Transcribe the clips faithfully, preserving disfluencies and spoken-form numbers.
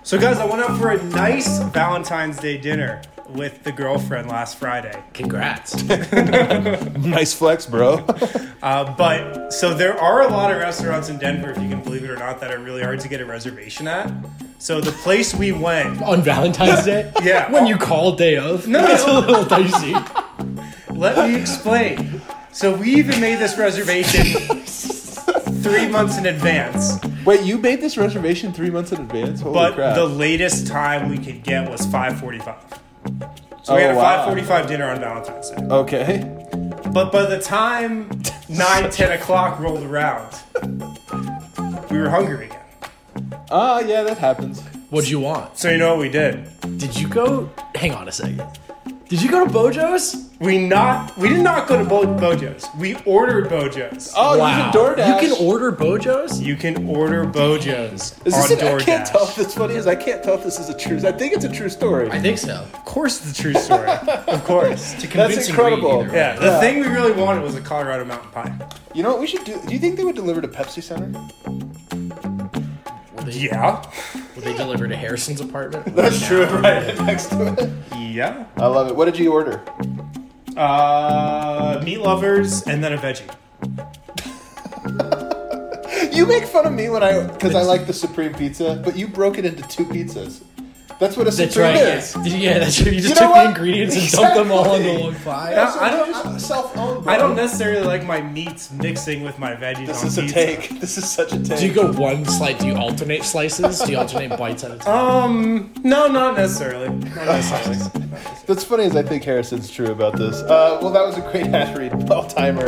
So guys, I went out for a nice Valentine's Day dinner with the girlfriend last Friday. Congrats. Nice flex, bro. Uh, but, so there are a lot of restaurants in Denver, if you can believe it or not, that are really hard to get a reservation at. So the place we went... On Valentine's Day? Yeah. When you call day of? No, It's no. a little dicey. Let me explain. So we even made this reservation three months in advance. Wait, you made this reservation three months in advance? Holy But crap. the latest time we could get was five forty-five. So we Oh, had a wow. five forty-five dinner on Valentine's Day. Okay. But by the time nine, ten o'clock rolled around, we were hungry again. Ah, yeah, that happens. What'd you want? So you know what we did? Did you go... Hang on a second. Did you go to Bojo's? We not we did not go to Bo- Bojo's. We ordered Bojo's. Oh, you can DoorDash. You can order Bojo's? You can order Bojo's Is on this an, I can't tell if DoorDash. this funny is I can't tell if this is a true. I think it's a true story. I think so. Of course, it's a true story. Of course. To That's incredible. Either way. Yeah, the Yeah. thing we really wanted was a Colorado mountain pie. You know what we should do? Do you think they would deliver to Pepsi Center? Will they, Yeah. will they deliver to Harrison's apartment? That's true, right next to it. Yeah. I love it. What did you order? Uh, meat lovers and then a veggie. You make fun of me when I because I like the Supreme Pizza, but you broke it into two pizzas. That's what a That's Supreme right. is. Yeah. Did you, yeah, that's true. You just You know took what? the ingredients and dumped them all Exactly. into one pie. Yeah. So I don't- I'm just self-owned, bro. I don't necessarily like my meats mixing with my veggies This on is a pizza. take. This is such a take. Do you go one slice? Do you alternate slices? Do you alternate bites at a time? Um, no, not necessarily. Not necessarily. What's funny is I think Harrison's true about this. Uh, well, that was a great hash read, all timer.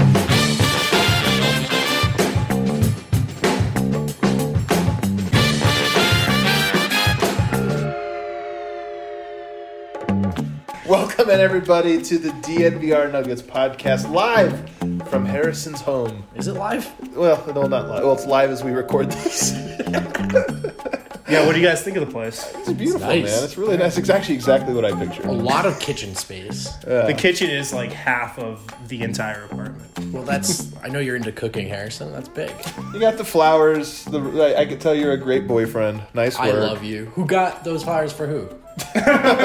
Welcome in everybody to the D N V R Nuggets podcast, live from Harrison's home. Is it live? Well, no, not live. Well, it's live as we record this. Yeah, what do you guys think of the place? It's beautiful, nice. man. It's really nice. It's actually exactly what I pictured. A lot of kitchen space. The kitchen is like half of the entire apartment. Well, that's. I know you're into cooking, Harrison. That's big. You got the flowers. The I, I can tell you're a great boyfriend. Nice work. I love you. Who got those flowers for who? I'm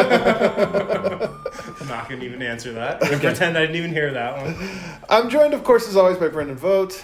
not going to even answer that. I'm gonna pretend I didn't even hear that one. I'm joined, of course, as always, by Brendan Vogt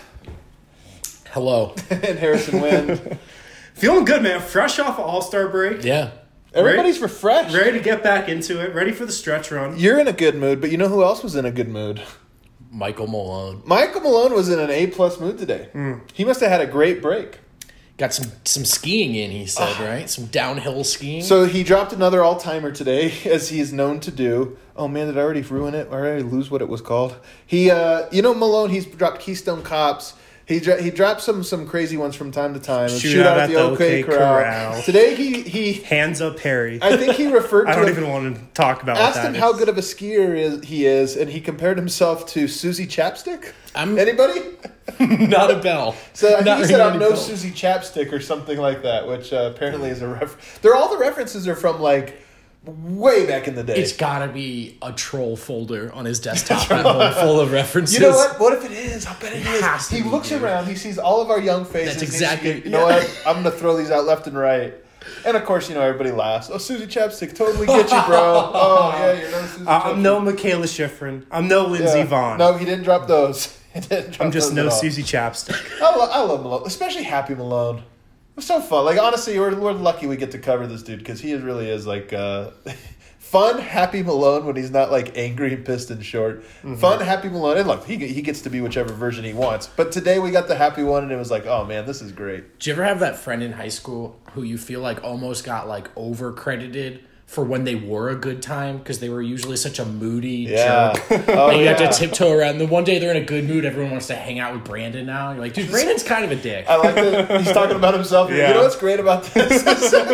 Hello. and Harrison Wind. Feeling good, man. Fresh off of All-Star break. Yeah. Everybody's refreshed. Ready to get back into it. Ready for the stretch run. You're in a good mood, but you know who else was in a good mood? Michael Malone. Michael Malone was in an A-plus mood today. He must have had a great break. Got some some skiing in, he said, right? Some downhill skiing. So he dropped another all-timer today, as he is known to do. Oh, man, did I already ruin it? Or did I already lose what it was called? He, uh, you know, Malone, he's dropped Keystone Cops. He dro- he dropped some some crazy ones from time to time. Shootout at the OK Corral. Today he he Hands up, Harry. I think he referred to I don't it- even want to talk about asked what him that how is. good of a skier is, he is, and he compared himself to Susie Chapstick. I'm Anybody? not a bell. So I think Not he said, ringing "I'm any no bells. Susie Chapstick" or something like that, which uh, apparently is a reference. They're all the references are from like way back in the day. It's gotta be a troll folder on his desktop at home full of references. You know what? What if it is? I bet it, It is. has to He be, looks dude. around. He sees all of our young faces. That's and he's- exactly- You know yeah. what? I'm gonna throw these out left and right. And of course, you know everybody laughs. Oh, Susie Chapstick, totally get you, bro. Oh yeah, you're no Susie Uh, Chapstick. I'm no Michaela Schifrin. I'm no Lindsey Yeah. Vaughn. No, he didn't drop those. He didn't drop I'm just those no at all. Susie Chapstick. I, lo- I love Malone, especially Happy Malone. It's so fun. Like honestly, we're we're lucky we get to cover this dude because he really is like uh, fun, happy Malone when he's not like angry, pissed, and short. Mm-hmm. Fun, happy Malone, and look, he he gets to be whichever version he wants. But today we got the happy one, and it was like, oh man, this is great. Did you ever have that friend in high school who you feel like almost got like over credited for when they were a good time because they were usually such a moody Yeah. jerk? Oh And you yeah. have to tiptoe around. The one day they're in a good mood, everyone wants to hang out with Brandon now. You're like, dude, Brandon's kind of a dick. I like that he's talking about himself. Yeah. You know what's great about this?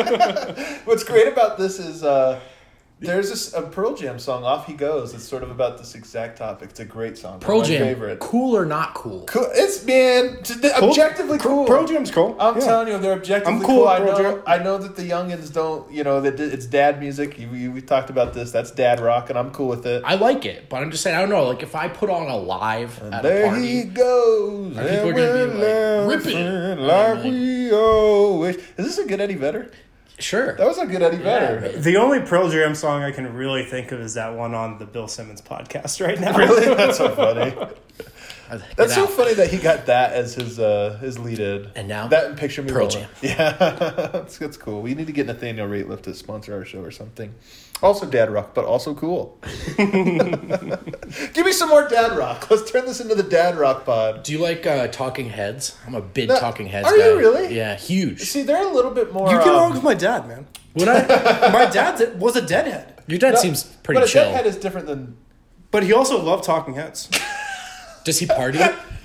Is, what's great about this is uh, there's this, a Pearl Jam song, "Off He Goes." It's sort of about this exact topic. It's a great song. Pearl my Jam, favorite. cool or not cool? Cool. It's man, t- th- objectively cool. Pearl Jam's cool. I'm Yeah. telling you, they're objectively I'm cool. cool with I Pearl know. Jam. I know that the youngins don't. You know that it's dad music. You, you, we talked about this. That's dad rock, and I'm cool with it. I like it, but I'm just saying, I don't know. Like, if I put on a live at a There party, he goes. Are people and gonna be we're like, "Rip it"? laughing like we always. Is this a good Eddie Vedder? Sure. That was a good Eddie Vedder. The only Pearl Jam song I can really think of is that one on the Bill Simmons podcast right now. Really? That's so funny. Get That's so out. funny that he got that as his uh, his lead in. And now, that and Picture Me Pearl Rolling. Jam. Yeah, that's, that's cool. We need to get Nathaniel Rateliff to sponsor our show or something. Also dad rock, but also cool. Give me some more dad rock. Let's turn this into the dad rock pod. Do you like uh, Talking Heads? I'm a big No, Talking Heads are guy. you really? Yeah, huge. See, they're a little bit more. You get um, along with my dad, man. Would I? My dad was a deadhead, Your dad no, seems pretty but chill. a deadhead is different than. but he also loved Talking Heads. Does he party?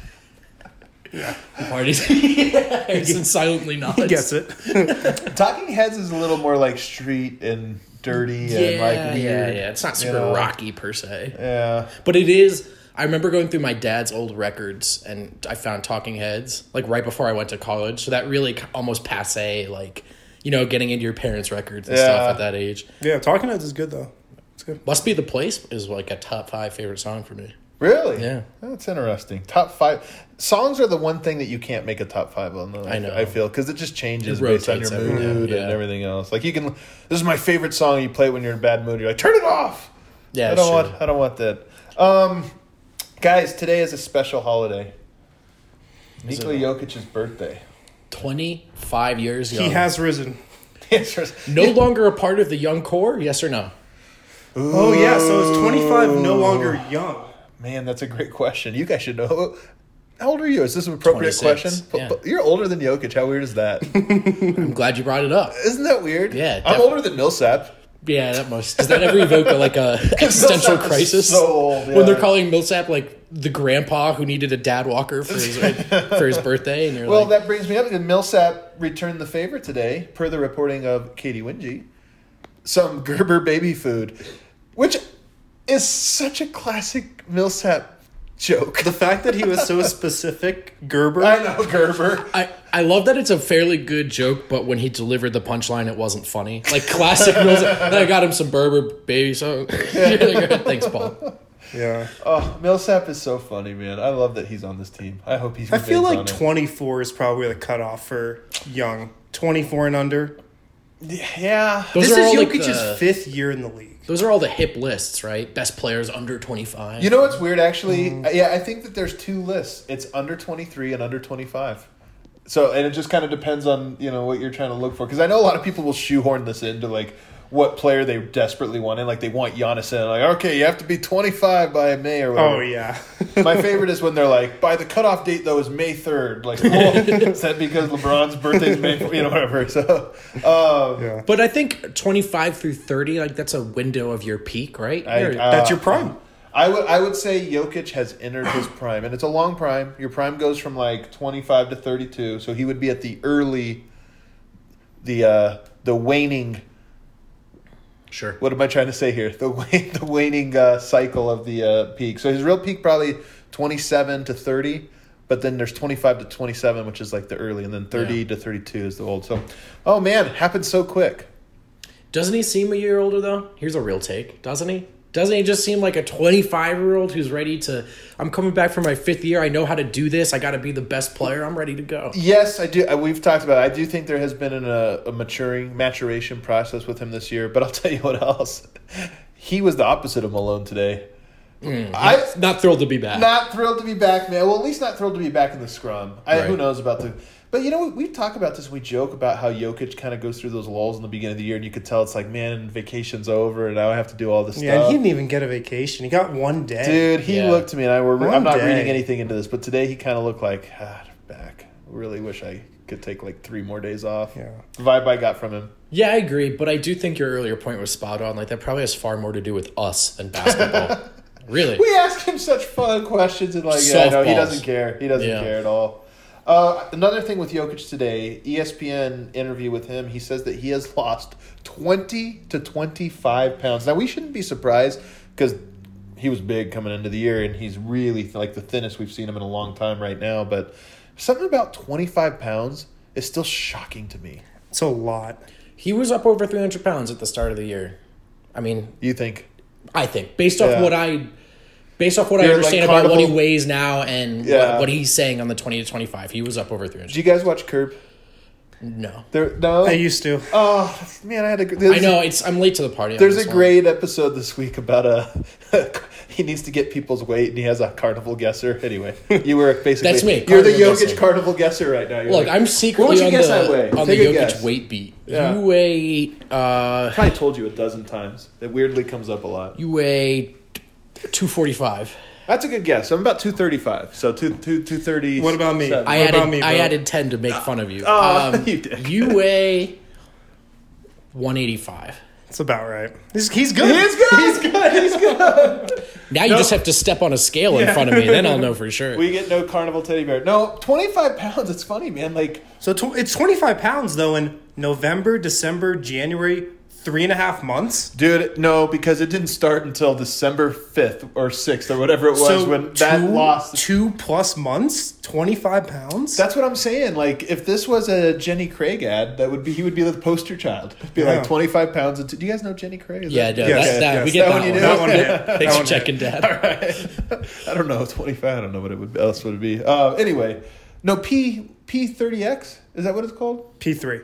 Yeah, he parties. Yeah, Harrison silently nods. He gets it. Talking Heads is a little more like street and dirty Yeah, and like yeah, weird. yeah. It's not you super know? rocky per se, Yeah. but it is. I remember going through my dad's old records, and I found Talking Heads like right before I went to college. So that really almost passe, like you know, getting into your parents' records and Yeah. stuff at that age. Yeah, Talking Heads is good though. It's good. Must Be the Place is like a top five favorite song for me. Really? Yeah. That's interesting. Top five songs are the one thing that you can't make a top five on. Though, I know. I feel because it just changes It based on your rotates every day, mood yeah. and everything else. Like you can, this is my favorite song. You play it when you're in a bad mood. You're like, turn it off. Yeah, I don't sure. want. I don't want that. Um, guys, today is a special holiday. Is Nikola it? Jokic's birthday. twenty-five years young. He has risen. No longer a part of the young core, yes or no? Oh yeah, so is twenty-five no longer young? Man, that's a great question. You guys should know. How old are you? Is this an appropriate twenty-six, question? yeah. But- but you're older than Jokic. How weird is that? I'm glad you brought it up. Isn't that weird? Yeah, I'm def- older than Millsap. Yeah, that must. Does that ever evoke a, like a existential Millsap is crisis? so old, yeah. When they're calling Millsap like the grandpa who needed a dad walker for his for his birthday, and you're Well, like, that brings me up. And Millsap returned the favor today, per the reporting of Katie Wingy. Some Gerber baby food, which is such a classic Millsap joke. The fact that he was so specific, Gerber. I know Gerber. I, I love that it's a fairly good joke, but when he delivered the punchline, it wasn't funny. Like classic Millsap. Then I got him some Berber baby, so thanks, Paul. Yeah. Oh, Millsap is so funny, man. I love that he's on this team. I hope he's. I feel remains like on it. twenty-four is probably the cutoff for young. twenty-four and under. Yeah. Those this are is all like Jokic's the- fifth year in the league. Those are all the hip lists, right? Best players under twenty-five. You know what's weird, actually? Yeah, I think that there's two lists. It's under twenty-three and under twenty-five. So, and it just kind of depends on, you know, what you're trying to look for. Because I know a lot of people will shoehorn this into, like, what player they desperately want in. Like, they want Giannis in. Like, okay, you have to be twenty-five by May or whatever. Oh yeah. My favorite is when they're like, by the cutoff date, though, is May third. Like, well, is that because LeBron's birthday is May, you know, whatever. So, um, yeah. But I think twenty-five through thirty, like that's a window of your peak, right? I- You're- uh, That's your prime. I would I would say Jokic has entered his prime, and it's a long prime. Your prime goes from like twenty-five to thirty-two, so he would be at the early, the uh, the waning. sure. What am I trying to say here? The wane, the waning uh, cycle of the uh, peak. So his real peak probably twenty-seven to thirty, but then there's twenty-five to twenty-seven, which is like the early, and then thirty Yeah. to thirty-two is the old. So, oh man, happened so quick. Doesn't he seem a year older though? Here's a real take, doesn't he? Doesn't he just seem like a twenty-five-year-old who's ready to, I'm coming back for my fifth year. I know how to do this. I got to be the best player. I'm ready to go. Yes, I do. uh, We've talked about it. I do think there has been an, a, a maturing, maturation process with him this year. But I'll tell you what else. He was the opposite of Malone today. I Not thrilled to be back. not thrilled to be back, man. Well, at least not thrilled to be back in the scrum. I, Who Right. knows about the? But you know, we talk about this. We joke about how Jokic kind of goes through those lulls in the beginning of the year, and you could tell it's like, man, vacation's over, and now I have to do all this Yeah, and stuff. he didn't even get a vacation. He got one day. Dude, he Yeah. looked to me, and I were. One I'm not day. reading anything into this, but today he kind of looked like, ah, back. Really wish I could take like three more days off. Yeah. The vibe I got from him. Yeah, I agree. But I do think your earlier point was spot on. Like that probably has far more to do with us than basketball. Really. We ask him such fun questions, and like, yeah, no, he Softballs. doesn't care. He doesn't Yeah. care at all. Uh, another thing with Jokic today, E S P N interview with him, he says that he has lost twenty to twenty-five pounds. Now, we shouldn't be surprised because he was big coming into the year, and he's really like the thinnest we've seen him in a long time right now. But something about twenty-five pounds is still shocking to me. It's a lot. He was up over three hundred pounds at the start of the year. I mean, You think? I think based off Yeah. what I based off what I You're understand like about what he Carnival- weighs now and Yeah. what, what he's saying on the twenty to twenty-five, he was up over three Did hundred. you guys watch Curb? No. There, no. I used to. Oh man, I had a. I know it's. I'm late to the party. on There's this a one. great episode this week about a. He needs to get people's weight, and he has a carnival guesser. Anyway, you were basically That's me, You're the carnival Jokic guesser. carnival guesser right now. You're Look, like, I'm what would secretly you on guess I the weigh? on the Take a Jokic guess. weight beat. Yeah. You weigh. Uh, I probably told you a dozen times. It weirdly comes up a lot. you weigh two forty-five. That's a good guess. I'm about two thirty-five. So two two two thirty. What about me? I What added. about me, I bro? added ten to make fun of you. Oh, um, you did. you weigh one eighty-five. That's about right. He's, he's good. He's good. He's good. He's good. Now you No. just have to step on a scale in front of me. Then I'll know for sure. We get no carnival teddy bear. No, twenty-five pounds. It's funny, man. Like, So tw- it's twenty-five pounds, though, in November, December, January, three and a half months. dude, no, because it didn't start until December fifth or sixth or whatever it was So when that two, lost. two plus months, twenty-five pounds? That's what I'm saying. Like, if this was a Jenny Craig ad, that would be he would be the poster child. It'd be Yeah. like twenty-five pounds. And two, do you guys know Jenny Craig? Is Yeah, that- no, Yes, that, that, yes. we get That that, one you one. do? That one hit. That Thanks one for hit. checking, Dad. I don't know twenty-five. I don't know what it would else would it be. Uh, anyway, no P P thirty X. Is that what it's called? P three.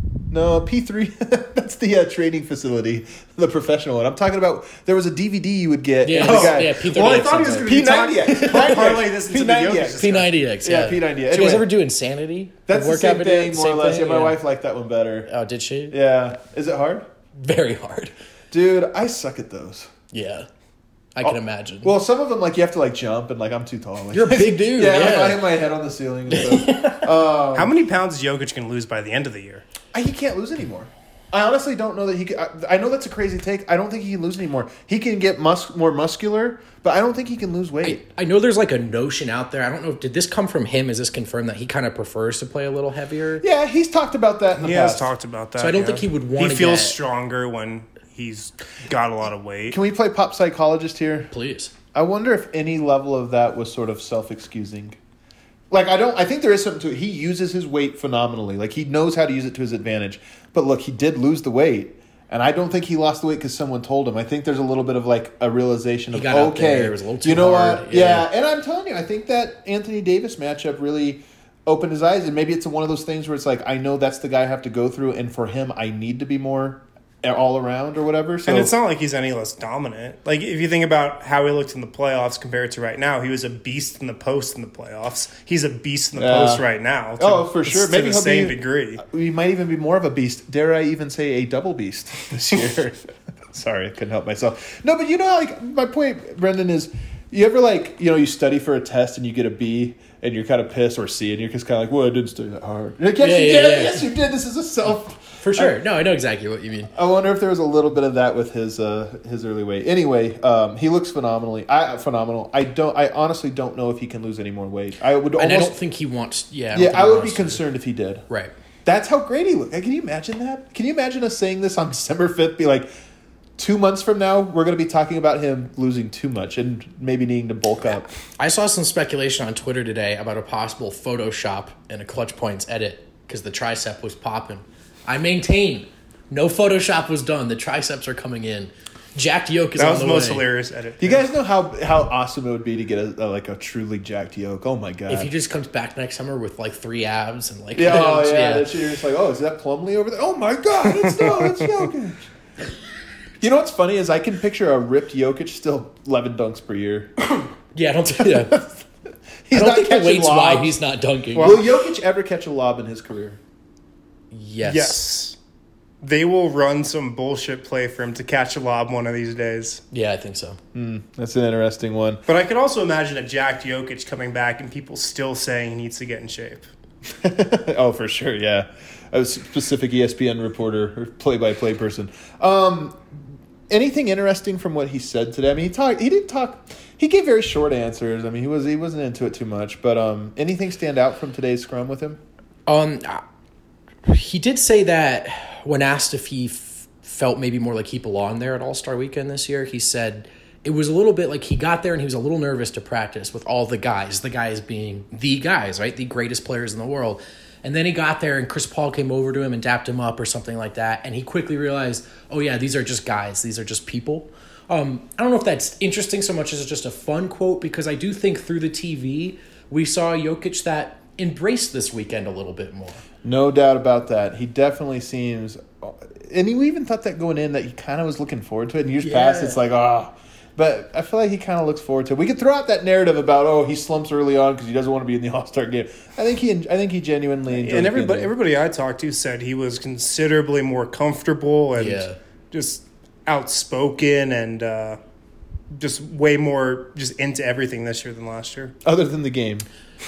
No, P three. That's the uh, training facility, the professional one. I'm talking about. There was a D V D you would get. Yeah, and the this- guy- yeah, P thirty X. Well, I thought he was going to P be talking. ninety X. I'll parlay this into P the ninety Jokic X. discussion. P ninety X. Yeah, Yeah, P ninety. Did you Anyway. guys ever do Insanity? That's the same video? thing, more or Same less. thing? Yeah, my wife liked that one better. Oh, did she? Yeah, is it hard, Very hard. dude? I suck at those. Yeah, I can Oh, imagine. Well, some of them like you have to like jump, and like I'm too tall. Like, You're a big dude. yeah, Yeah, I hit my head on the ceiling. And stuff. um, How many pounds is Jokic going to lose by the end of the year? I, he can't lose anymore. I honestly don't know that he can. I, I know that's a crazy take. I don't think he can lose anymore. He can get mus- more muscular, but I don't think he can lose I, weight. I know there's like a notion out there. I don't know. Did this come from him? Is this confirmed that he kind of prefers to play a little heavier? Yeah, he's talked about that in the He past. has talked about that. So I don't yeah. think he would wanna He feels get- stronger when he's got a lot of weight. Can we play pop psychologist here? Please. I wonder if any level of that was sort of self-excusing. Like I don't I think there is something to it. He uses his weight phenomenally. Like he knows how to use it to his advantage. But look, he did lose the weight. And I don't think he lost the weight because someone told him. I think there's a little bit of like a realization He of got out okay, there, it was a little too you know hard, what? yeah. Yeah. And I'm telling you, I think that Anthony Davis matchup really opened his eyes. And maybe it's one of those things where it's like I know that's the guy I have to go through, and for him, I need to be more all around or whatever. So And it's not like he's any less dominant. Like, if you think about how he looked in the playoffs compared to right now, he was a beast in the post in the playoffs. He's a beast in the Yeah. post right now. to- Oh, for sure. To Maybe the he'll same be- degree. we might even be more of a beast. Dare I even say a double beast this year? Sorry, I couldn't help myself. No, but you know, like my point, Brendan, is you ever like you know you study for a test and you get a B and you're kind of pissed, or C and you're just kind of like, well, I didn't study that hard. Like, yes, Yeah, you yeah, did. yeah. Yes, you did. This is a self. For sure. No, I know exactly what you mean. I wonder if there was a little bit of that with his uh, his early weight. Anyway, um, he looks phenomenally. I phenomenal. I don't. I honestly don't know if he can lose any more weight. I would And almost. I don't think he wants. Yeah. don't yeah, think I he would be wants to. concerned if he did. Right. That's how great he looked. Like, can you imagine that? Can you imagine us saying this on December fifth? Be like, two months from now, we're going to be talking about him losing too much and maybe needing to bulk up. I saw some speculation on Twitter today about a possible Photoshop and a Clutch Points edit because the tricep was popping. I maintain no Photoshop was done. The triceps are coming in. Jacked yoke is That on was the the most way. hilarious edit. Do you guys know how, how awesome it would be to get a, a like a truly jacked yoke? Oh my god! If he just comes back next summer with like three abs and like yeah, oh yeah, yeah. that shit, you're just like, oh, is that Plumlee over there? Oh my god, it's no, it's Jokic. You know what's funny is I can picture a ripped Jokic still eleven dunks per year. Yeah, I don't think yeah. He's I don't not think the catching weight's why lobs. he's not dunking. Will Jokic ever catch a lob in his career? yes. Yes. They will run some bullshit play for him to catch a lob one of these days. Yeah, I think so. That's an interesting one. But I could also imagine a jacked Jokic coming back and people still saying he needs to get in shape. Oh, for sure, yeah. A specific E S P N reporter or play-by-play person. Um, anything interesting from what he said today? I mean, he talked. He didn't talk. He gave very short answers. I mean, he was he wasn't into it too much. But um, anything stand out from today's scrum with him? Um, he did say that when asked if he f- felt maybe more like he belonged there at All-Star Weekend this year, he said it was a little bit like he got there and he was a little nervous to practice with all the guys, the guys being the guys, right? The greatest players in the world. And then he got there and Chris Paul came over to him and dapped him up or something like that. And he quickly realized, oh yeah, these are just guys. These are just people. Um, I don't know if that's interesting so much as it's just a fun quote, because I do think through the T V, we saw Jokic that embrace this weekend a little bit more. No doubt about that. He definitely seems, and we even thought that going in that he kind of was looking forward to it. In years Yeah. past, it's like, ah. Oh. But I feel like he kind of looks forward to it. We could throw out that narrative about, oh, he slumps early on because he doesn't want to be in the All-Star game. I think he, I think he genuinely enjoys And being everybody, there. everybody I talked to said he was considerably more comfortable and Yeah. just outspoken and uh, just way more just into everything this year than last year. Other than the game.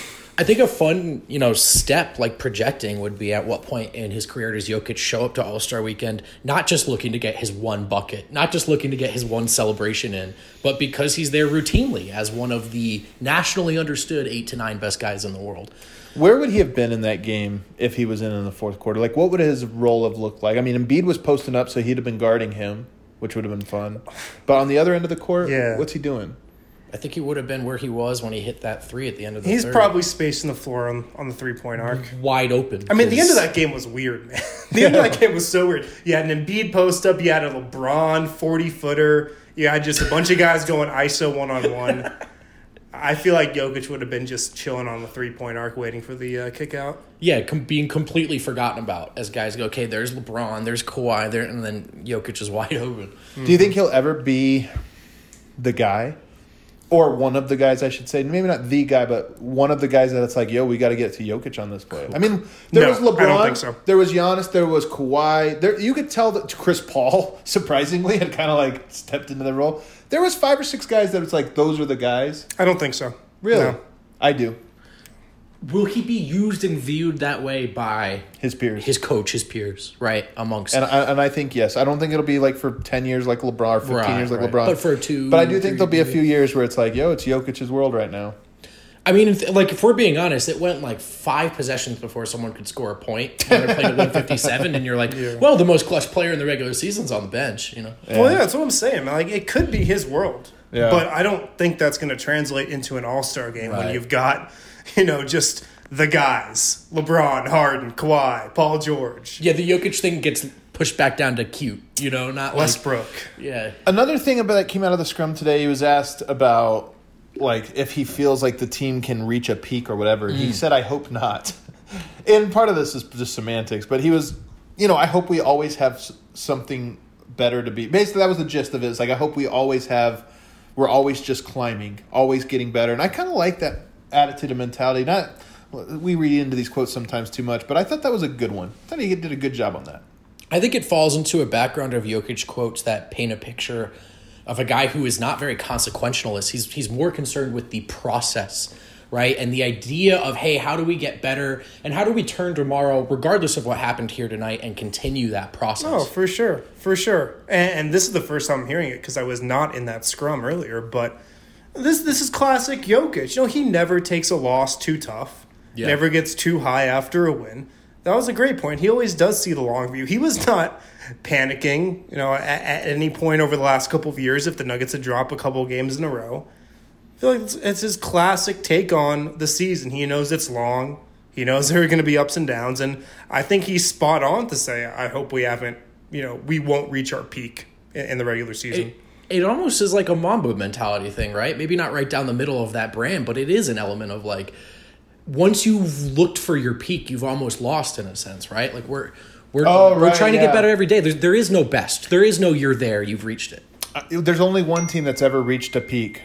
I think a fun, you know, step like projecting would be at what point in his career does Jokic show up to All-Star Weekend, not just looking to get his one bucket, not just looking to get his one celebration in, but because he's there routinely as one of the nationally understood eight to nine best guys in the world. Where would he have been in that game if he was in in the fourth quarter? Like, what would his role have looked like? I mean, Embiid was posting up, so he'd have been guarding him, which would have been fun. But on the other end of the court, Yeah. what's he doing? I think he would have been where he was when he hit that three at the end of the He's third. probably spacing the floor on, on the three-point arc. wide open. I mean, the end of 'cause- that game was weird, man. The end of that game was so weird. You had an Embiid post-up. You had a LeBron forty-footer. You had just a bunch of guys going I S O one-on-one. I feel like Jokic would have been just chilling on the three-point arc waiting for the uh, kick out. Yeah, com- being completely forgotten about as guys go, okay, there's LeBron, there's Kawhi, there, and then Jokic is wide open. Do you think he'll ever be the guy? Or one of the guys, I should say. Maybe not the guy, but one of the guys that it's like, yo, we got to get to Jokic on this play. I mean, there No, was LeBron. I don't think so. There was Giannis. There was Kawhi. There, you could tell that Chris Paul, surprisingly, had kind of like stepped into the role. There was five or six guys that it's like, those are the guys. I don't think so. Really? No. I do. Will he be used and viewed that way by His peers. his coach, his peers, right? Amongst and I, and I think, yes. I don't think it'll be like for ten years like LeBron or fifteen Right, years like right. LeBron. But for two, But I do think three there'll be a years. few years where it's like, yo, it's Jokic's world right now. I mean, if, like if we're being honest, it went like five possessions before someone could score a point when they're playing at one fifty-seven, and you're like, well, the most clutch player in the regular season's on the bench, you know. Well, yeah, that's what I'm saying. Like, it could be his world. Yeah. But I don't think that's going to translate into an all-star game when Right. you've got, you know, just the guys. LeBron, Harden, Kawhi, Paul George, Yeah, the Jokic thing gets pushed back down to cute, you know, not like, Westbrook. yeah. Another thing about that came out of the scrum today, he was asked about like if he feels like the team can reach a peak or whatever. He said, I hope not. And part of this is just semantics, but he was, you know, I hope we always have s- something better to be. Basically, that was the gist of it. It's like, I hope we always have, we're always just climbing, always getting better. And I kind of like that attitude and mentality. Not, we read into these quotes sometimes too much, but I thought that was a good one. I thought he did a good job on that. I think it falls into a background of Jokic quotes that paint a picture of a guy who is not very consequentialist. He's he's more concerned with the process, right? And the idea of, hey, how do we get better and how do we turn tomorrow, regardless of what happened here tonight, and continue that process? Oh, for sure. For sure. And, and this is the first time I'm hearing it because I was not in that scrum earlier, but this this is classic Jokic. You know, he never takes a loss too tough, Yeah. never gets too high after a win. That was a great point. He always does see the long view. He was not panicking, you know, at, at any point over the last couple of years if the Nuggets had dropped a couple of games in a row. I feel like it's, it's his classic take on the season. He knows it's long. He knows there are going to be ups and downs, and I think he's spot on to say, I hope we haven't, you know, we won't reach our peak in, in the regular season. It, it almost is like a Mamba mentality thing, right? Maybe not right down the middle of that brand, but it is an element of like, once you've looked for your peak, you've almost lost in a sense, right? Like we're we're Oh, we're right, trying to yeah. get better every day. There's, there is no best. There is no you're there, you've reached it. Uh, There's only one team that's ever reached a peak.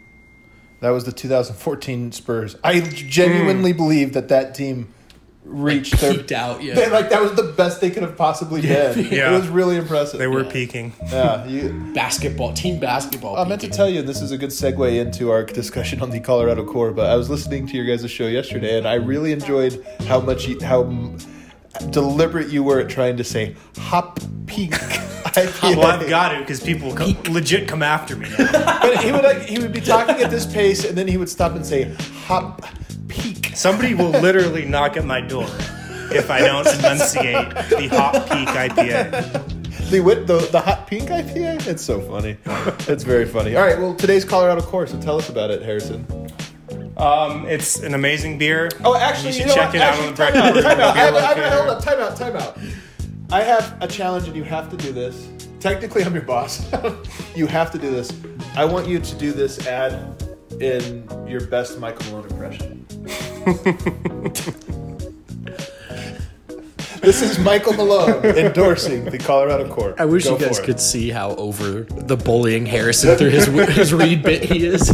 That was the two thousand fourteen Spurs. I genuinely believe that that team reached their Peaked out, yeah. They- like that was the best they could have possibly been. Yeah. It was really impressive. They were Yeah. peaking. Yeah, you, Basketball, team basketball. I meant to peaking. tell you, and this is a good segue into our discussion on the Colorado Core. But I was listening to your guys' show yesterday, and I really enjoyed how much you, how m- deliberate you were at trying to say "hop peak." Well, I've got to because people come, legit come after me now. But he would like he would be talking at this pace, and then he would stop and say "hop peak." Somebody will literally knock at my door if I don't enunciate the Hot Peak I P A. The wit, the the hot pink I P A. It's so funny. It's very funny. All right, well, today's Colorado Core. So tell us about it, Harrison. Um, it's an amazing beer. Oh, actually, you you should know check what? it out Actually, on the time Brecken out, time out. I have, Beer I have, Locator. hold up, time out, time out. I have a challenge, and you have to do this. Technically, I'm your boss. You have to do this. I want you to do this ad in your best Michael Malone impression. This is Michael Malone endorsing the Colorado Court. I wish Go you guys for it. could see how over the bullying Harrison through his his read bit he is.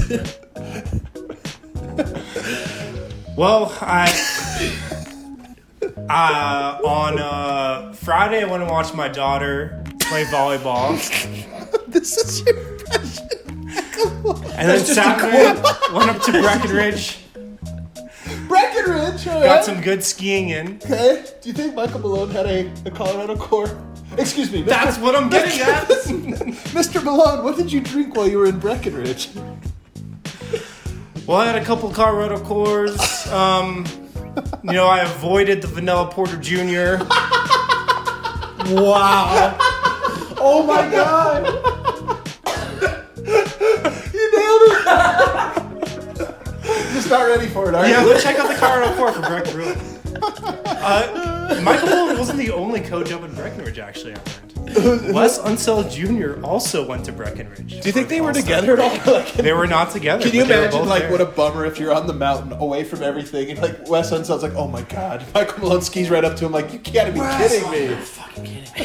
Well, I uh, on uh, Friday I went and watched my daughter play volleyball, This is your impression. and then Saturday went up to Breckenridge, Breckenridge, all got right. some good skiing in. Okay. Do you think Michael Malone had a, a Colorado Core? Excuse me. Mister That's what I'm getting at. Mister Malone, what did you drink while you were in Breckenridge? Well, I had a couple Colorado Cores. Um, you know, I avoided the Vanilla Porter Junior Wow. Oh my God. You nailed it. Just not ready for it, are Yeah, you? let's check out the Colorado Core for Breckenridge. Uh, Michael Malone wasn't the only coach up in Breckenridge, actually, I learned. Wes Unseld Junior also went to Breckenridge. Do you think they were together at all? Like, They were not together. can you but they were imagine, both like, there. what a bummer if you're on the mountain away from everything and, like, Wes Unseld's like, oh my God. Michael Malone skis right up to him like, you gotta be kidding me. Fucking kidding me.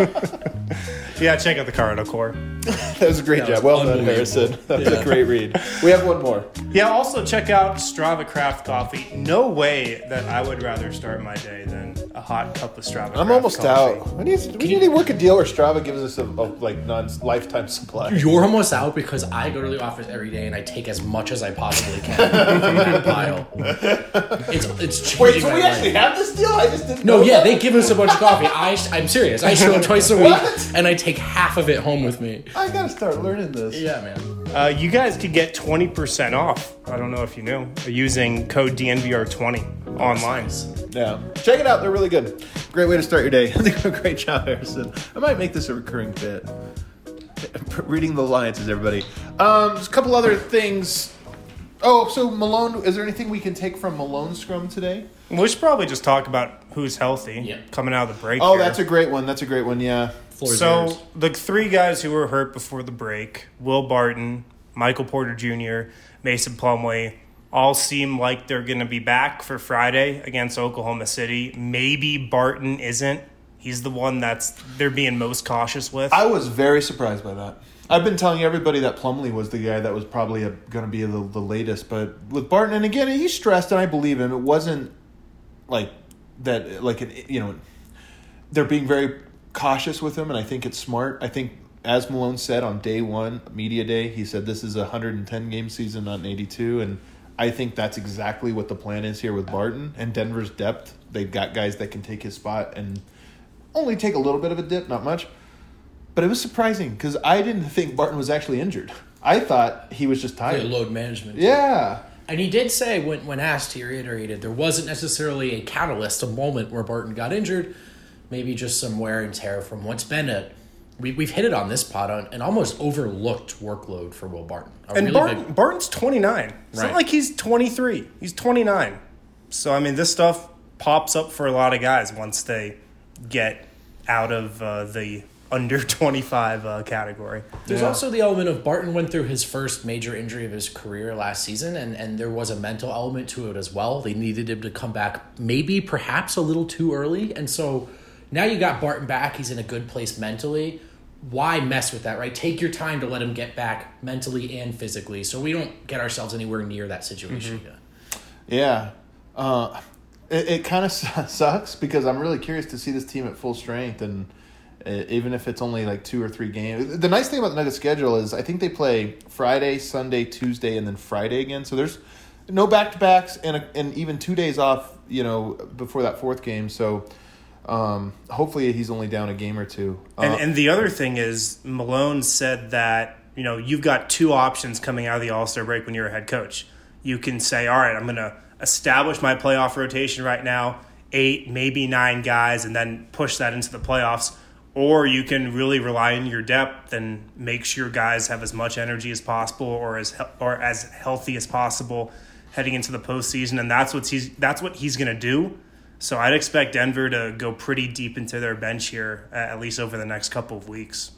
Yeah, check out the Colorado Core. That was a great That job. was Well done, unbelievable. Harrison. That was Yeah. a great read. We have one more. Yeah, also check out Strava Craft Coffee. No way that I would rather start my day than a hot cup of Strava I'm Craft almost coffee. out. We need, we need to work a deal where Strava gives us a, a like non lifetime supply. You're almost out because I go to the office every day and I take as much as I possibly can from that pile. It's it's changing Wait, so my we life. actually have this deal? I just didn't No, know yeah, that. they give us a bunch of coffee. I, I'm serious. I show up twice a week, What? and I take half of it home with me. I gotta start learning this. Yeah, man. Uh, you guys could get twenty percent off. I don't know if you knew. Using code D N V R twenty online. Yeah. Check it out. They're really good. Great way to start your day. I think a great job, Harrison. I might make this a recurring bit. Reading the alliances, everybody. Um, just a couple other things. Oh, so Malone, is there anything we can take from Malone's scrum today? We should probably just talk about who's healthy Yeah. coming out of the break. Oh, here. that's a great one. That's a great one, yeah. Floor is So yours. the three guys who were hurt before the break, Will Barton, Michael Porter Junior, Mason Plumlee, all seem like they're going to be back for Friday against Oklahoma City. Maybe Barton isn't. He's the one that's they're being most cautious with. I was very surprised by that. I've been telling everybody that Plumlee was the guy that was probably going to be the, the latest, but with Barton, and again, he's stressed, and I believe him. It wasn't like that, like an, you know, they're being very cautious with him, and I think it's smart. I think, as Malone said on day one, media day, he said this is a one hundred ten game season, not an eighty-two, and I think that's exactly what the plan is here with Barton and Denver's depth. They've got guys that can take his spot and only take a little bit of a dip, not much. But it was surprising because I didn't think Barton was actually injured. I thought he was just Yeah, tired. load management. Yeah. And he did say, when, when asked, he reiterated, there wasn't necessarily a catalyst, a moment where Barton got injured. Maybe just some wear and tear from what's been a, we, we've hit it on this pod, on an almost overlooked workload for Will Barton. A and really Barton, big- Barton's twenty-nine. It's Right. not like he's twenty-three. He's twenty-nine. So, I mean, this stuff pops up for a lot of guys once they get out of uh, the under twenty-five uh, category. There's Yeah. also the element of Barton went through his first major injury of his career last season, and, and there was a mental element to it as well. They needed him to come back maybe perhaps a little too early. And so now you got Barton back. He's in a good place mentally. Why mess with that, right? Take your time to let him get back mentally and physically so we don't get ourselves anywhere near that situation again. Yeah. Uh, it it kind of sucks because I'm really curious to see this team at full strength, and uh, even if it's only like two or three games. The nice thing about the Nuggets schedule is I think they play Friday, Sunday, Tuesday, and then Friday again. So there's no back-to-backs and, a, and even two days off, you know, before that fourth game. So um, hopefully he's only down a game or two. Uh, And, and the other thing is, Malone said that, you know, you've got two options coming out of the All-Star break when you're a head coach. You can say, all right, I'm going to establish my playoff rotation right now, eight, maybe nine guys, and then push that into the playoffs. Or you can really rely on your depth and make sure guys have as much energy as possible or as he- or as healthy as possible heading into the postseason. And that's what he's that's what he's going to do. So I'd expect Denver to go pretty deep into their bench here, uh, at least over the next couple of weeks.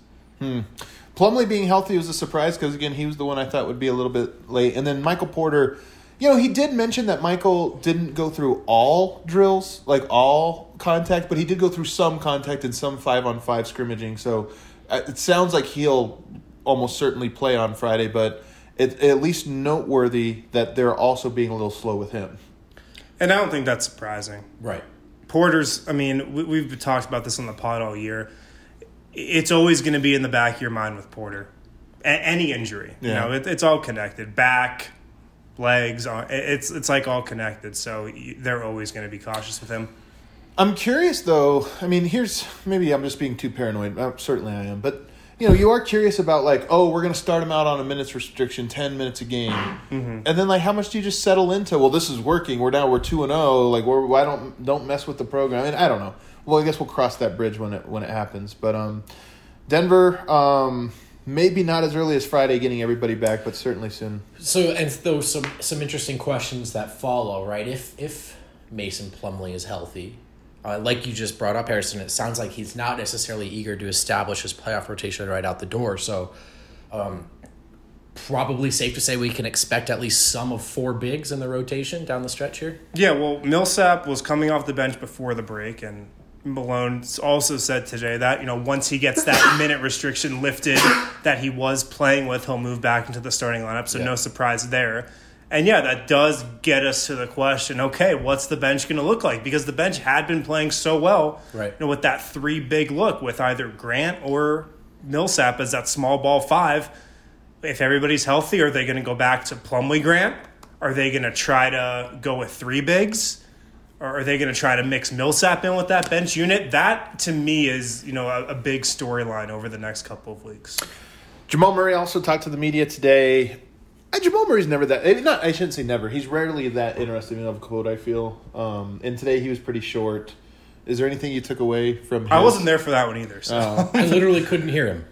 Plumlee being healthy was a surprise because, again, he was the one I thought would be a little bit late. And then Michael Porter, You know, he did mention that Michael didn't go through all drills, like all contact, but he did go through some contact and some five-on-five scrimmaging. So uh, it sounds like he'll almost certainly play on Friday, but it's at least noteworthy that they're also being a little slow with him. And I don't think that's surprising. Right. Porter's, I mean, we, we've talked about this on the pod all year. It's always going to be in the back of your mind with Porter. A- any injury. Yeah. You know, it, it's all connected. Back, legs, it's it's like all connected. So they're always going to be cautious with him. I'm curious, though. I mean, here's maybe I'm just being too paranoid. Uh, certainly I am. But, you know, you are curious about, like, oh, we're going to start him out on a minutes restriction, ten minutes a game. Mm-hmm. And then, like, how much do you just settle into, well, this is working. We're now we're two and oh. Like, we're, why don't don't mess with the program? And I don't know. Well, I guess we'll cross that bridge when it when it happens. But um, Denver, um, maybe not as early as Friday getting everybody back, but certainly soon. So, and those some some interesting questions that follow, right? If if Mason Plumlee is healthy, uh, like you just brought up, Harrison, it sounds like he's not necessarily eager to establish his playoff rotation right out the door. So, um, probably safe to say we can expect at least some of four bigs in the rotation down the stretch here. Yeah, well, Millsap was coming off the bench before the break, and Malone also said today that, you know, once he gets that minute restriction lifted that he was playing with, he'll move back into the starting lineup, so yeah. No surprise there. And, yeah, that does get us to the question, okay, what's the bench going to look like? Because the bench had been playing so well, right. You know, with that three-big look with either Grant or Millsap as that small ball five. If everybody's healthy, are they going to go back to Plumlee Grant? Are they going to try to go with three bigs? Or are they going to try to mix Millsap in with that bench unit? That, to me, is, you know, a, a big storyline over the next couple of weeks. Jamal Murray also talked to the media today. Uh, Jamal Murray's never that. Not, I shouldn't say never. He's rarely that interesting of a quote, I feel. Um, and today he was pretty short. Is there anything you took away from his? I wasn't there for that one either. So. Oh. I literally couldn't hear him.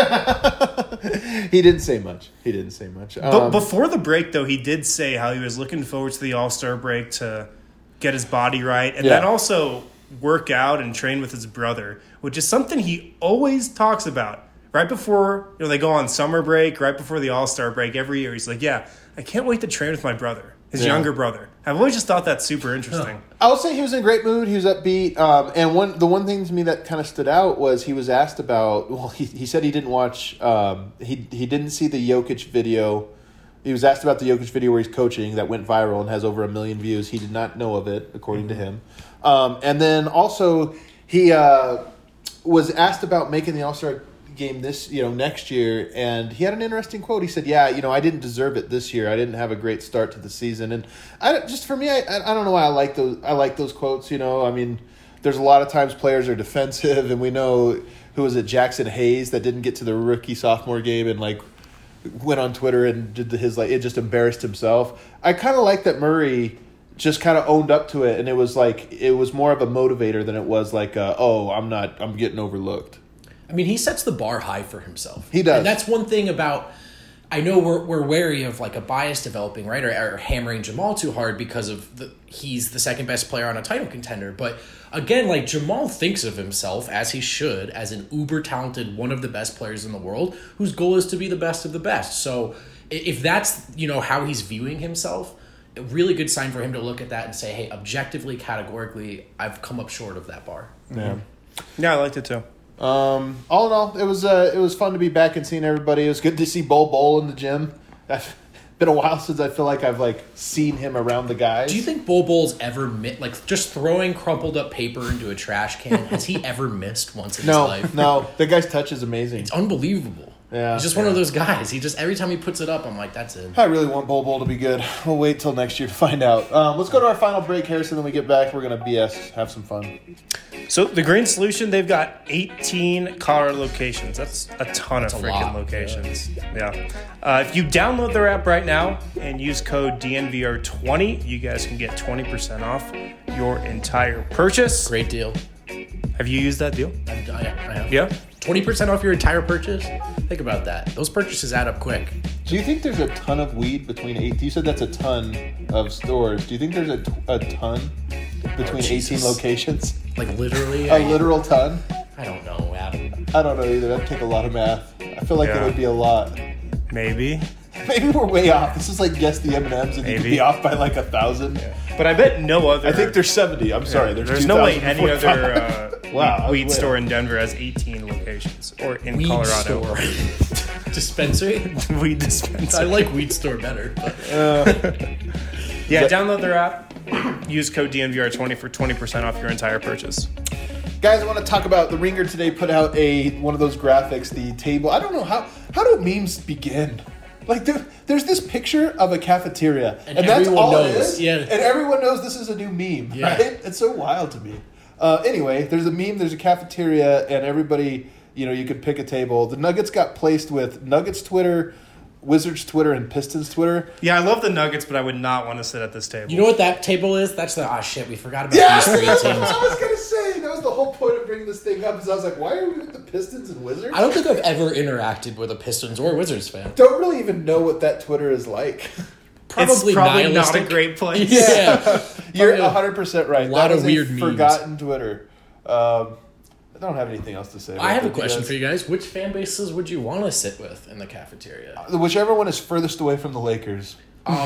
He didn't say much. He didn't say much. Um, but before the break, though, he did say how he was looking forward to the All-Star break to get his body right, and yeah. then also work out and train with his brother, which is something he always talks about. Right before, you know, they go on summer break, right before the All-Star break every year, he's like, yeah, I can't wait to train with my brother, his yeah. younger brother. I've always just thought that's super interesting. Huh. I will say he was in a great mood. He was upbeat. Um, and one the one thing to me that kind of stood out was he was asked about, well, he, he said he didn't watch, um, he, he didn't see the Jokic video. He was asked about the Jokic video where he's coaching that went viral and has over a million views. He did not know of it, according mm-hmm. to him. Um, and then also he uh, was asked about making the All-Star game this, you know, next year, and he had an interesting quote. He said, "Yeah, you know, I didn't deserve it this year. I didn't have a great start to the season." And I just for me, I I don't know why I like those. I like those quotes. You know, I mean, there's a lot of times players are defensive, and we know who was it, Jackson Hayes, that didn't get to the rookie sophomore game and like went on Twitter and did the, his like it just embarrassed himself. I kind of like that Murray just kind of owned up to it, and it was like it was more of a motivator than it was like, uh, oh, I'm not, I'm getting overlooked. I mean, he sets the bar high for himself. He does. And that's one thing about, I know we're we're wary of like a bias developing, right? Or, or hammering Jamal too hard because of the he's the second best player on a title contender. But again, like Jamal thinks of himself, as he should, as an uber talented, one of the best players in the world, whose goal is to be the best of the best. So if that's, you know, how he's viewing himself, a really good sign for him to look at that and say, hey, objectively, categorically, I've come up short of that bar. Yeah. Yeah, I liked it too. Um, all in all, it was uh, it was fun to be back and seeing everybody. It was good to see Bol Bol in the gym. I've been a while since I feel like I've like seen him around the guys. Do you think Bol Bol's ever mi- like just throwing crumpled up paper into a trash can? Has he ever missed once in no, his life? No, the guy's touch is amazing. It's unbelievable. Yeah, he's just yeah. one of those guys. He just every time he puts it up, I'm like, that's it. I really want Bol Bol to be good. We'll wait till next year to find out. Um, let's go to our final break, Harrison. Then we get back. We're gonna B S, have some fun. So the Green Solution, they've got eighteen Colorado locations. That's a ton That's of a freaking lot, locations. Yeah. yeah. Uh, if you download their app right now and use code D N V R twenty, you guys can get twenty percent off your entire purchase. Great deal. Have you used that deal? I, I, I have. Yeah. twenty percent off your entire purchase? Think about that. Those purchases add up quick. Do you think there's a ton of weed between eight? You said that's a ton of stores. Do you think there's a, a ton between oh, eighteen locations? Like literally? A I, literal ton? I don't know, Adam. I don't know either. That'd take a lot of math. I feel like Yeah. it would be a lot. Maybe. maybe we're way off. This is like guess the M and M's, and you could Maybe. be off by like a thousand. Yeah. But I bet no other. I think there's seventy. I'm sorry. There's, There's no way two any thousand other uh, Wow, I was weed way store off. in Denver has eighteen locations, or in Weed Colorado. store. Dispensary? Weed I dispensary. like weed store better. But. Yeah, download their app. Use code D N V R twenty for twenty percent off your entire purchase. Guys, I want to talk about the Ringer today. Put out a one of those graphics, the table. I don't know how how do memes begin. Like there, there's this picture of a cafeteria, and, And that's everyone all it knows, is. yeah. And everyone knows this is a new meme, Yeah. right? It's so wild to me. Uh, anyway, there's a meme. There's a cafeteria, and everybody, you know, you could pick a table. The Nuggets got placed with Nuggets Twitter, Wizards Twitter, and Pistons Twitter. Yeah, I love the Nuggets, but I would not want to sit at this table. You know what that table is? That's the, ah, shit, we forgot about Yeah, these three that's teams. what I was gonna say. That was the whole point of bringing this thing up. Is I was like, why are we with the Pistons and Wizards? I don't think I've ever interacted with a Pistons or Wizards fan. Don't really even know what that Twitter is like. Probably it's probably not a nihilistic. great place. Yeah. You're Probably a one hundred percent right. lot That of is a weird memes. forgotten Twitter. Um, I don't have anything else to say. I have a about it. question Yes. for you guys. Which fan bases would you want to sit with in the cafeteria? Whichever one is furthest away from the Lakers.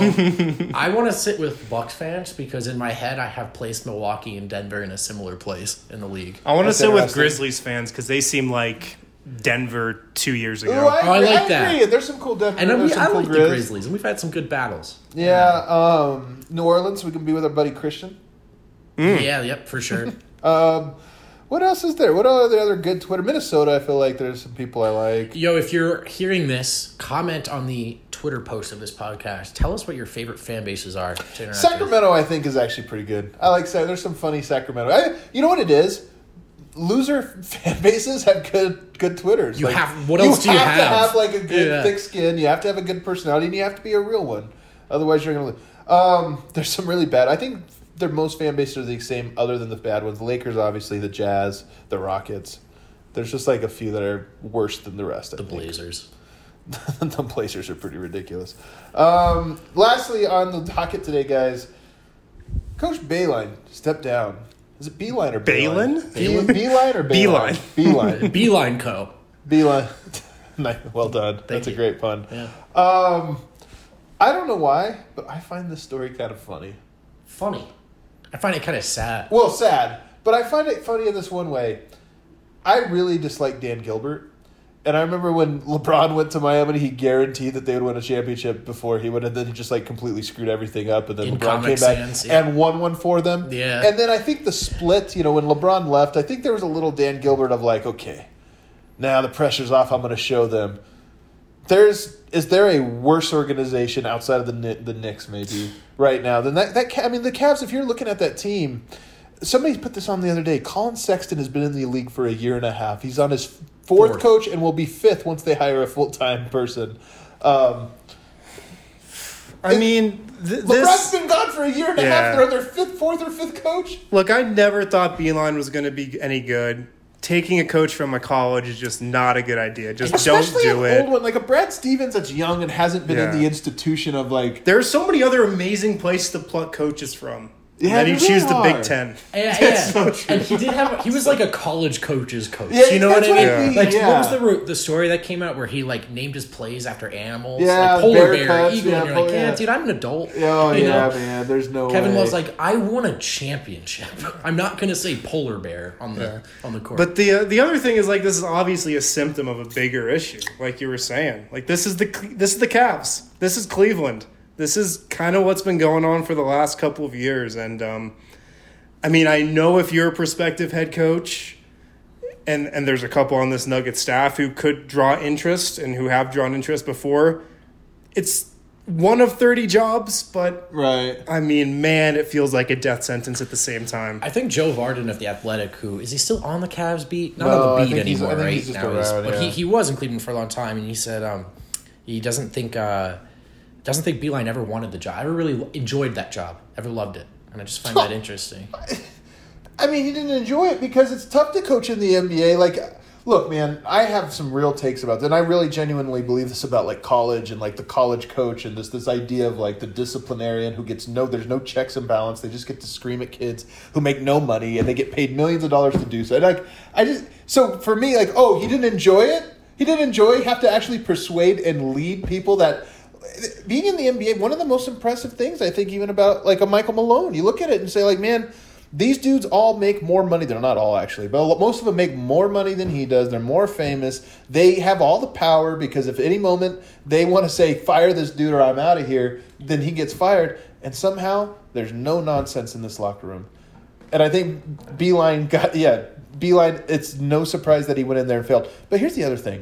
Um, I want to sit with Bucks fans because in my head I have placed Milwaukee and Denver in a similar place in the league. I want to That's sit with interesting. Grizzlies fans because they seem like Denver two years ago. Ooh, I, Oh, I agree. like I that. agree. There's some cool Denver. And I, there's mean, some I cool like the Grizz. Grizzlies, and we've had some good battles. Yeah. Um, New Orleans. We can be with our buddy Christian. Yeah, yep, for sure. Um, what else is there? What are the other good Twitter? Minnesota. I feel like there's some people I like. Yo, if you're hearing this, comment on the Twitter post of this podcast. Tell us what your favorite fan bases are to interact with. Sacramento, I think, is actually pretty good. I like. Sa- There's some funny Sacramento. I, you know what it is? Loser fan bases have good good Twitters. You Like, have- what else do you to have? have like a good Yeah. thick skin. You have to have a good personality, and you have to be a real one. Otherwise, you're gonna lose. Um, there's some really bad. I think their most fan bases are the same, other than the bad ones. The Lakers, obviously, the Jazz, the Rockets. There's just like a few that are worse than the rest. I The think. Blazers. The Blazers are pretty ridiculous. Um, lastly, on the docket today, guys, Coach Bayline stepped down. Is it Beeline or Balin? Beeline? Beeline or Beeline. Bayline? Beeline. Beeline Co. Beeline. Nice. Well done. That's a you. great pun. Yeah. Um, I don't know why, but I find this story kind of funny. Funny. I find it kind of sad. Well, sad, but I find it funny in this one way. I really dislike Dan Gilbert. And I remember when LeBron went to Miami, he guaranteed that they would win a championship before he would, and then he just like completely screwed everything up. And then In LeBron came Comic back Sans, yeah. and won one for them. Yeah. And then I think the split, you know, when LeBron left, I think there was a little Dan Gilbert of like, okay, now the pressure's off. I'm going to show them. There's is there a worse organization outside of the Kni- the Knicks maybe right now than that? That Ca- I mean, the Cavs. If you're looking at that team. Somebody put this on the other day. Colin Sexton has been in the league for a year and a half. He's on his fourth, Fourth. coach and will be fifth once they hire a full-time person. Um, I mean, th- LeBron's this. been gone for a year and a Yeah. half. They're their fifth, fourth, or fifth coach. Look, I never thought Beeline was going to be any good. Taking a coach from a college is just not a good idea. Just Especially don't do an it. old one like a Brad Stevens that's young and hasn't been Yeah. in the institution of like. There are so many other amazing places to pluck coaches from. Yeah, and then you there choose really the are. Big Ten. Yeah, That's yeah. so true. And he did have. He was like a college coach's coach. Yeah, you know what that's I mean? what I mean, Like, yeah. what was the ro- the story that came out where he like named his plays after animals? Yeah, like polar bear bear, cubs, eagle. yeah, and you're pol- like, yeah, yeah. dude, I'm an adult. Oh you yeah, know? man. There's no. Kevin way. Love's like, I won a championship. I'm not gonna say polar bear on the Yeah. on the court. But the uh, the other thing is like this is obviously a symptom of a bigger issue, like you were saying. Like this is the this is the Cavs. This is Cleveland. This is kind of what's been going on for the last couple of years. And um, I mean, I know if you're a prospective head coach, and and there's a couple on this Nugget staff who could draw interest and who have drawn interest before. It's one of thirty jobs, but right. I mean, man, it feels like a death sentence at the same time. I think Joe Varden of The Athletic, who is he still on the Cavs beat? Not No, I on the beat think he's- I anymore, think right? he's just now he's, around, but yeah. he, he was in Cleveland for a long time, and he said um, he doesn't think uh, doesn't think Beeline ever wanted the job. I ever really enjoyed that job, ever loved it, and I just find that interesting. I mean, he didn't enjoy it because it's tough to coach in the N B A. Like, look, man, I have some real takes about that, and I really genuinely believe this about like college and like the college coach and this this idea of like the disciplinarian who gets no, there's no checks and balance. They just get to scream at kids who make no money and they get paid millions of dollars to do so. And like, I just so for me, like, oh, he didn't enjoy it. He didn't enjoy. You have to actually persuade and lead people that being in the N B A, one of the most impressive things I think even about like a Michael Malone, you look at it and say like, man, these dudes all make more money. They're not all actually, but most of them make more money than he does. They're more famous. They have all the power because if any moment they want to say, fire this dude or I'm out of here, then he gets fired. And somehow there's no nonsense in this locker room. And I think Beeline got, yeah, Beeline, it's no surprise that he went in there and failed. But here's the other thing.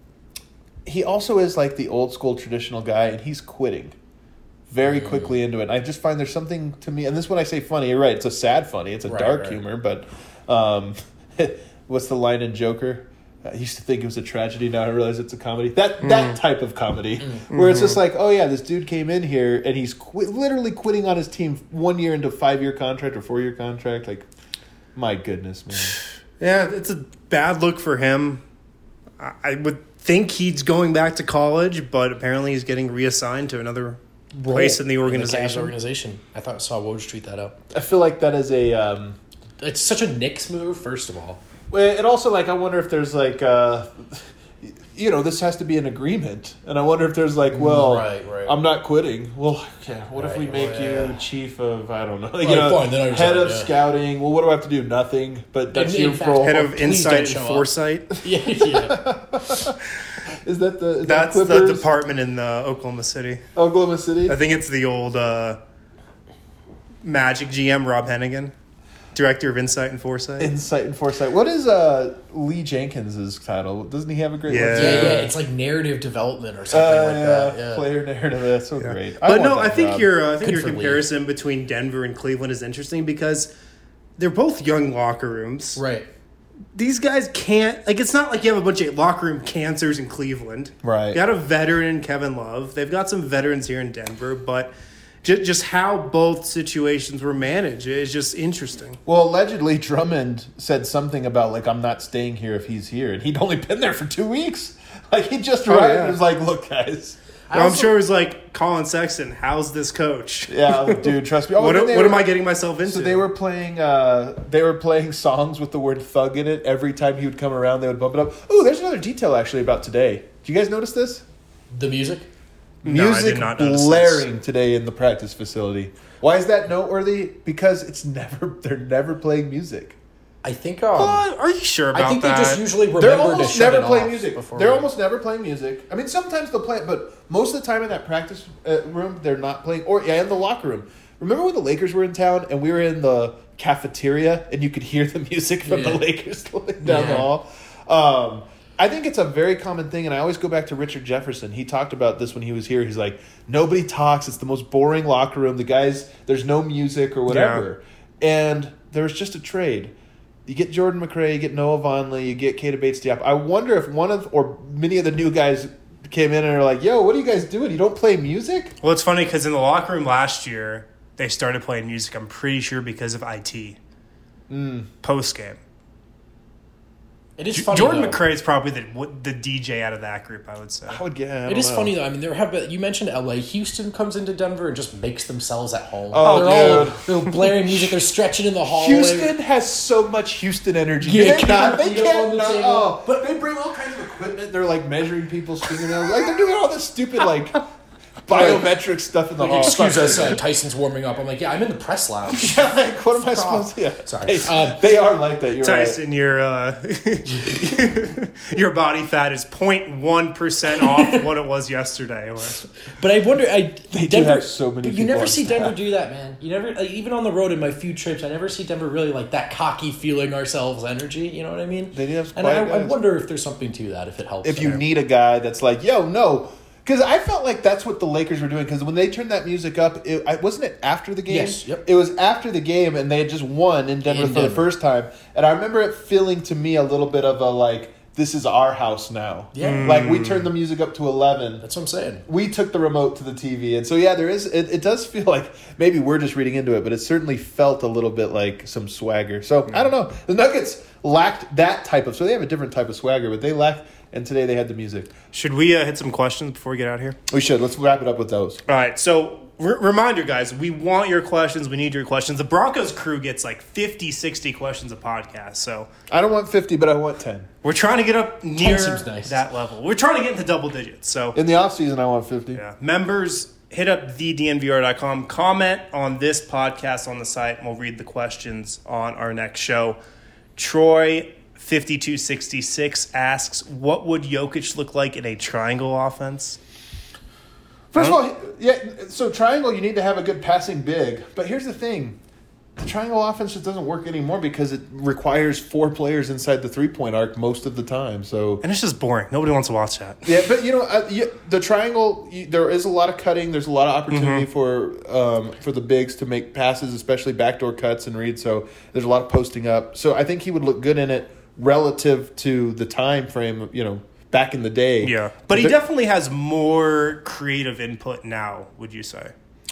He also is like the old school traditional guy, and he's quitting very mm. quickly into it. And I just find there's something to me, and this when I say funny, you're right, it's a sad funny, it's a right, dark right. humor, but um, what's the line in Joker? I used to think it was a tragedy, now I realize it's a comedy. That mm. that type of comedy, mm. where it's just like, oh yeah, this dude came in here, and he's qu- literally quitting on his team one year into a five-year contract or four-year contract. Like, my goodness, man. Yeah, it's a bad look for him. I, I would think he's going back to college, but apparently he's getting reassigned to another Role place in the organization. In the organization. I thought I saw Woj tweet that out. I feel like that is a... Um, it's such a Knicks move, first of all. Well, and also, like, I wonder if there's, like... Uh, you know, this has to be an agreement. And I wonder if there's, like, well, right, right. I'm not quitting. Well, okay, what right, if we make oh, yeah. you chief of, I don't know, like, right, you know, fine, head saying, of yeah. scouting. Well, what do I have to do? Nothing. But that's your role. Head of insight and foresight. yeah, yeah. Is that the? Is That's that the department in uh, Oklahoma City. Oklahoma City. I think it's the old uh, Magic G M Rob Hennigan, director of Insight and Foresight. Insight and Foresight. What is uh, Lee Jenkins's title? Doesn't he have a great? Yeah, one? yeah, yeah. It's like narrative development or something uh, like yeah. that. Yeah, player narrative. That's so yeah. great. I but no, I think job. your uh, I think Good your comparison Lee. between Denver and Cleveland is interesting because they're both young locker rooms, right? These guys can't, like, it's not like you have a bunch of locker room cancers in Cleveland. Right. You got a veteran in Kevin Love. They've got some veterans here in Denver, but just, just how both situations were managed is just interesting. Well, allegedly, Drummond said something about, like, I'm not staying here if he's here. And he'd only been there for two weeks. Like, he just arrived oh, yeah. and was like, look, guys. Well, also, I'm sure it was like, Colin Sexton, how's this coach? Yeah, dude, trust me. Oh, what what were, am I getting myself into? So they were playing uh, they were playing songs with the word thug in it. Every time he would come around, they would bump it up. Oh, there's another detail, actually, about today. Do you guys notice this? The music? No, music I did not notice blaring this. Today in the practice facility. Why is that noteworthy? Because it's never they're never playing music. I think. Um, uh, are you sure about that? I think that? they just usually remember They're almost to shut never it playing off music. before They're we... almost never playing music. I mean, sometimes they'll play it, but most of the time in that practice uh, room, they're not playing. Or yeah, in the locker room. Remember when the Lakers were in town and we were in the cafeteria and you could hear the music from yeah. the Lakers down yeah. the hall? Um, I think it's a very common thing, and I always go back to Richard Jefferson. He talked about this when he was here. He's like, nobody talks. It's the most boring locker room. The guys, there's no music or whatever. Yeah. And there was just a trade. You get Jordan McRae, you get Noah Vonleh, you get Keita Bates-Diop. I wonder if one of, or many of the new guys came in and are like, yo, what are you guys doing? You don't play music? Well, it's funny because in the locker room last year, they started playing music, I'm pretty sure, because of I T. Mm. Post-game. It is funny, Jordan though. McRae is probably the the D J out of that group, I would say. I would get. I it is know. funny though. I mean, there have been, you mentioned L A. Houston comes into Denver and just makes themselves at home. Oh, they're dude. all they're blaring music. They're stretching in the hallway. Houston has so much Houston energy. Yeah, they cannot. They the can't. Not, oh, but they bring all kinds of equipment. They're like measuring people's fingernails. Like they're doing all this stupid like biometric stuff in the like, hall. Excuse us, uh, Tyson's warming up. I'm like, yeah, I'm in the press lounge. Yeah, like, what am I supposed to? Yeah. Sorry, hey, um, they are like that. You're Tyson, right. your uh, your body fat is zero point one percent off what it was yesterday. But I wonder, I they Denver, do have so many. You never see Denver do that, man. You never, like, even on the road in my few trips, I never see Denver really like that cocky, feeling ourselves energy. You know what I mean? They do have. And I, I wonder if there's something to that. If it helps. If you there. need a guy that's like, yo, no. Because I felt like that's what the Lakers were doing. Because when they turned that music up, it, I, wasn't it after the game? Yes. Yep. It was after the game, and they had just won in Denver in for Denver. the first time. And I remember it feeling to me a little bit of a like, this is our house now. Yeah. Mm. Like we turned the music up to eleven. That's what I'm saying. We took the remote to the T V, and so yeah, there is. It, it does feel like maybe we're just reading into it, but it certainly felt a little bit like some swagger. So I don't know. The Nuggets. lacked that type of. So they have a different type of swagger, but they lacked. And today they had the music. Should we uh, hit some questions before we get out of here? We should. Let's wrap it up with those. All right. So, r- reminder, guys, we want your questions. We need your questions. The Broncos crew gets like fifty, sixty questions a podcast. So, I don't want fifty, but I want ten. we're trying to get up near seems nice. that level. We're trying to get into double digits. So, In the off season, I want fifty. yeah. Members, hit up the d n v r dot com. Comment on this podcast on the site, and we'll read the questions on our next show. Troy fifty-two sixty-six asks, what would Jokic look like in a triangle offense? First of all, yeah. So triangle, you need to have a good passing big. But here's the thing: the triangle offense just doesn't work anymore because it requires four players inside the three point arc most of the time. So And it's just boring. Nobody wants to watch that. yeah, but you know, uh, you, the triangle, you, there is a lot of cutting. There's a lot of opportunity Mm-hmm. for um, for the bigs to make passes, especially backdoor cuts and reads. So there's a lot of posting up. So I think he would look good in it relative to the time frame. You know, back in the day. Yeah. But he definitely has more creative input now, would you say?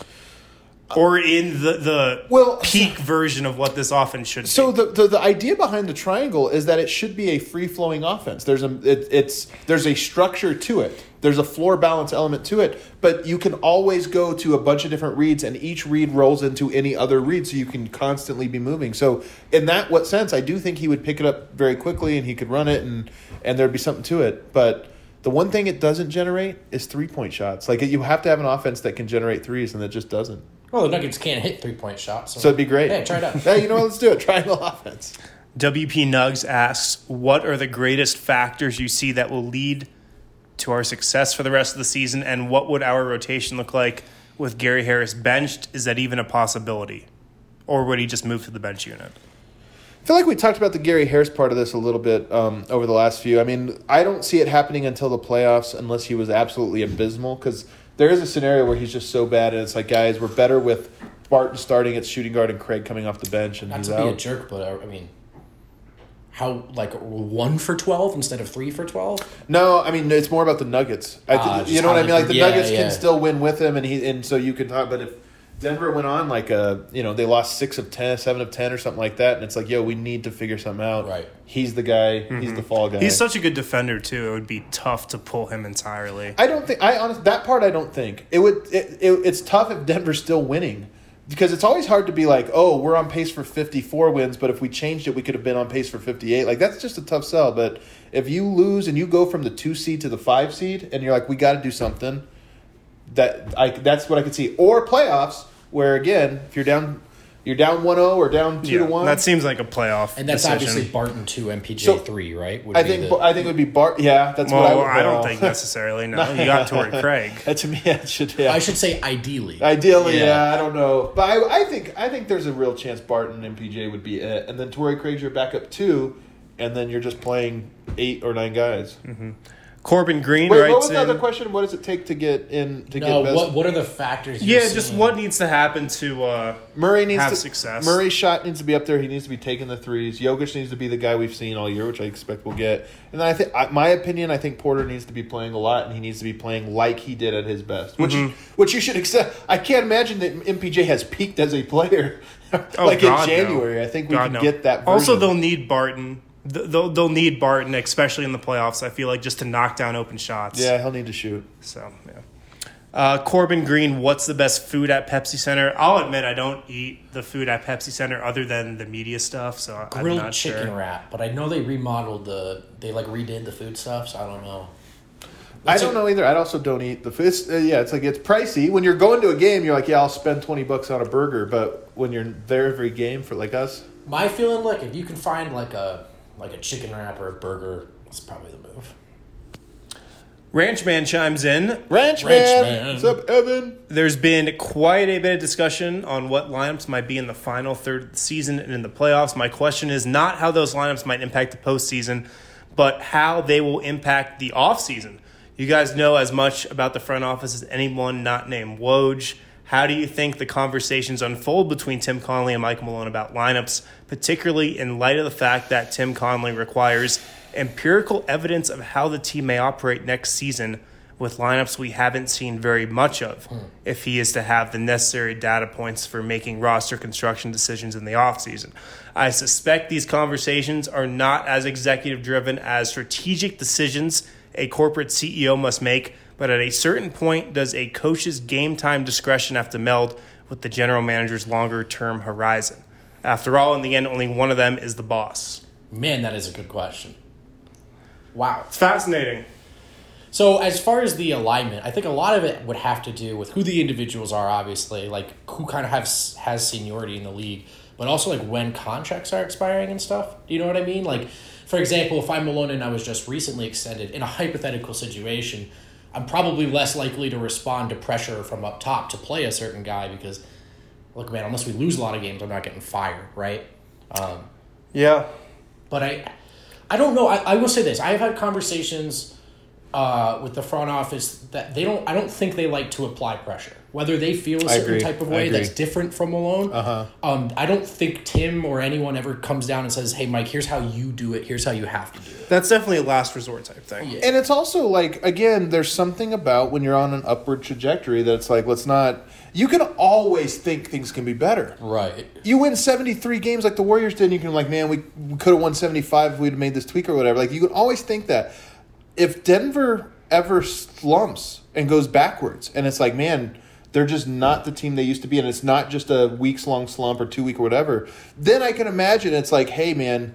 Or in the, the Well, peak version of what this offense should So be. the, the the idea behind the triangle is that it should be a free flowing offense. There's a it, it's there's a structure to it. There's a floor balance element to it, but you can always go to a bunch of different reads, and each read rolls into any other read, so you can constantly be moving. So in that what sense, I do think he would pick it up very quickly, and he could run it, and and there'd be something to it. But the one thing it doesn't generate is three point shots. Like you have to have an offense that can generate threes, and that just doesn't. Well, the Nuggets can't hit three-point shots. So, So it'd be great. Yeah, try it out. Hey, you know what? Let's do it. Triangle offense. W P Nugs asks, what are the greatest factors you see that will lead to our success for the rest of the season, and what would our rotation look like with Gary Harris benched? Is that even a possibility? Or would he just move to the bench unit? I feel like we talked about the Gary Harris part of this a little bit um, over the last few. I mean, I don't see it happening until the playoffs unless he was absolutely abysmal, because there is a scenario where he's just so bad, and it's like, guys, we're better with Barton starting at shooting guard and Craig coming off the bench, and Not he's to be a out. jerk, but uh, I mean, how like one for twelve instead of three for twelve? No, I mean, it's more about the Nuggets. I Ah, th- just you know what how I mean? they- Like the yeah, Nuggets yeah. can still win with him, and he and so you can talk. But if Denver went on like a, you know, they lost six of ten, seven of ten, or something like that, and it's like, yo, we need to figure something out. Right. He's the guy. He's the fall guy. He's such a good defender, too. It would be tough to pull him entirely. I don't think I honestly that part I don't think it would. It, it, it's tough if Denver's still winning, because it's always hard to be like, oh, we're on pace for fifty-four wins, but if we changed it, we could have been on pace for fifty-eight. Like that's just a tough sell. But if you lose and you go from the two seed to the five seed, and you're like, we got to do something, that I that's what I could see. Or playoffs, where again, if you're down. You're down one oh or down two to Yeah, one. that seems like a playoff And that's decision. obviously Barton two, M P J So, three, right? Would I be think the- I think it would be Bart. Yeah, that's Well, what I would. I don't well, think necessarily, no. You got Torrey Craig. That to me, yeah, it should. Yeah. I should say ideally. Ideally, yeah. Yeah. I don't know, but I, I think I think there's a real chance Barton and M P J would be it, and then Torrey Craig's your backup two, and then you're just playing eight or nine guys. Corbin Green Wait, writes what was the in. other question? What does it take to get in to no, get best? what what are the factors? you're Yeah, just seeing? what needs to happen to uh, Murray needs have to success. Murray's shot needs to be up there. He needs to be taking the threes. Jokic needs to be the guy we've seen all year, which I expect we'll get. And then I think, my opinion, I think Porter needs to be playing a lot, and he needs to be playing like he did at his best, which Mm-hmm. which you should accept. I can't imagine that M P J has peaked as a player Oh, like God, in no. January. I think we God, can no. get that. Version. Also, they'll need Barton. Th- They'll, they'll need Barton, especially in the playoffs, I feel like, just to knock down open shots. yeah, he'll need to shoot. So, yeah. Uh, Corbin Green, what's the best food at Pepsi Center? I'll admit I don't eat the food at Pepsi Center other than the media stuff, so I'm grilled not chicken sure. wrap, but I know they remodeled the they like redid the food stuff, so I don't know. I What's don't it- know either. I also don't eat the food. It's, uh, yeah, it's like it's pricey. When you're going to a game, you're like, yeah, I'll spend twenty bucks on a burger. But when you're there every game for like us, My feeling, look, if you can find like a like a chicken wrap or a burger, that's probably the move. Ranchman chimes in. Ranch, Ranch man. man. What's up, Evan? There's been quite a bit of discussion on what lineups might be in the final third of the season and in the playoffs. My question is not how those lineups might impact the postseason, but how they will impact the offseason. You guys know as much about the front office as anyone not named Woj. How do you think the conversations unfold between Tim Connelly and Michael Malone about lineups, particularly in light of the fact that Tim Connelly requires empirical evidence of how the team may operate next season with lineups we haven't seen very much of hmm. if he is to have the necessary data points for making roster construction decisions in the offseason. I suspect these conversations are not as executive-driven as strategic decisions a corporate C E O must make, but at a certain point, does a coach's game-time discretion have to meld with the general manager's longer-term horizon? After all, in the end, only one of them is the boss. Man, that is a good question. Wow. It's fascinating. So as far as the alignment, I think a lot of it would have to do with who the individuals are, obviously, like who kind of has, has seniority in the league, but also like when contracts are expiring and stuff. Do you know what I mean? Like, for example, if I'm Malone and I was just recently extended in a hypothetical situation, I'm probably less likely to respond to pressure from up top to play a certain guy because, look, man, unless we lose a lot of games, I'm not getting fired, right? Um, yeah. But I I don't know. I, I will say this. I've had conversations uh, with the front office that they don't, I don't think they like to apply pressure. Whether they feel a certain type of way that's different from Malone. Uh-huh. Um, I don't think Tim or anyone ever comes down and says, hey, Mike, here's how you do it. Here's how you have to do it. That's definitely a last resort type thing. Yeah. And it's also like, again, there's something about when you're on an upward trajectory that it's like, let's not... You can always think things can be better. Right. You win seventy-three games like the Warriors did, and you can like, man, we, we could have won seventy-five if we'd have made this tweak or whatever. Like, you can always think that. If Denver ever slumps and goes backwards, and it's like, man, they're just not the team they used to be, and it's not just a weeks-long slump or two-week or whatever, then I can imagine it's like, hey, man,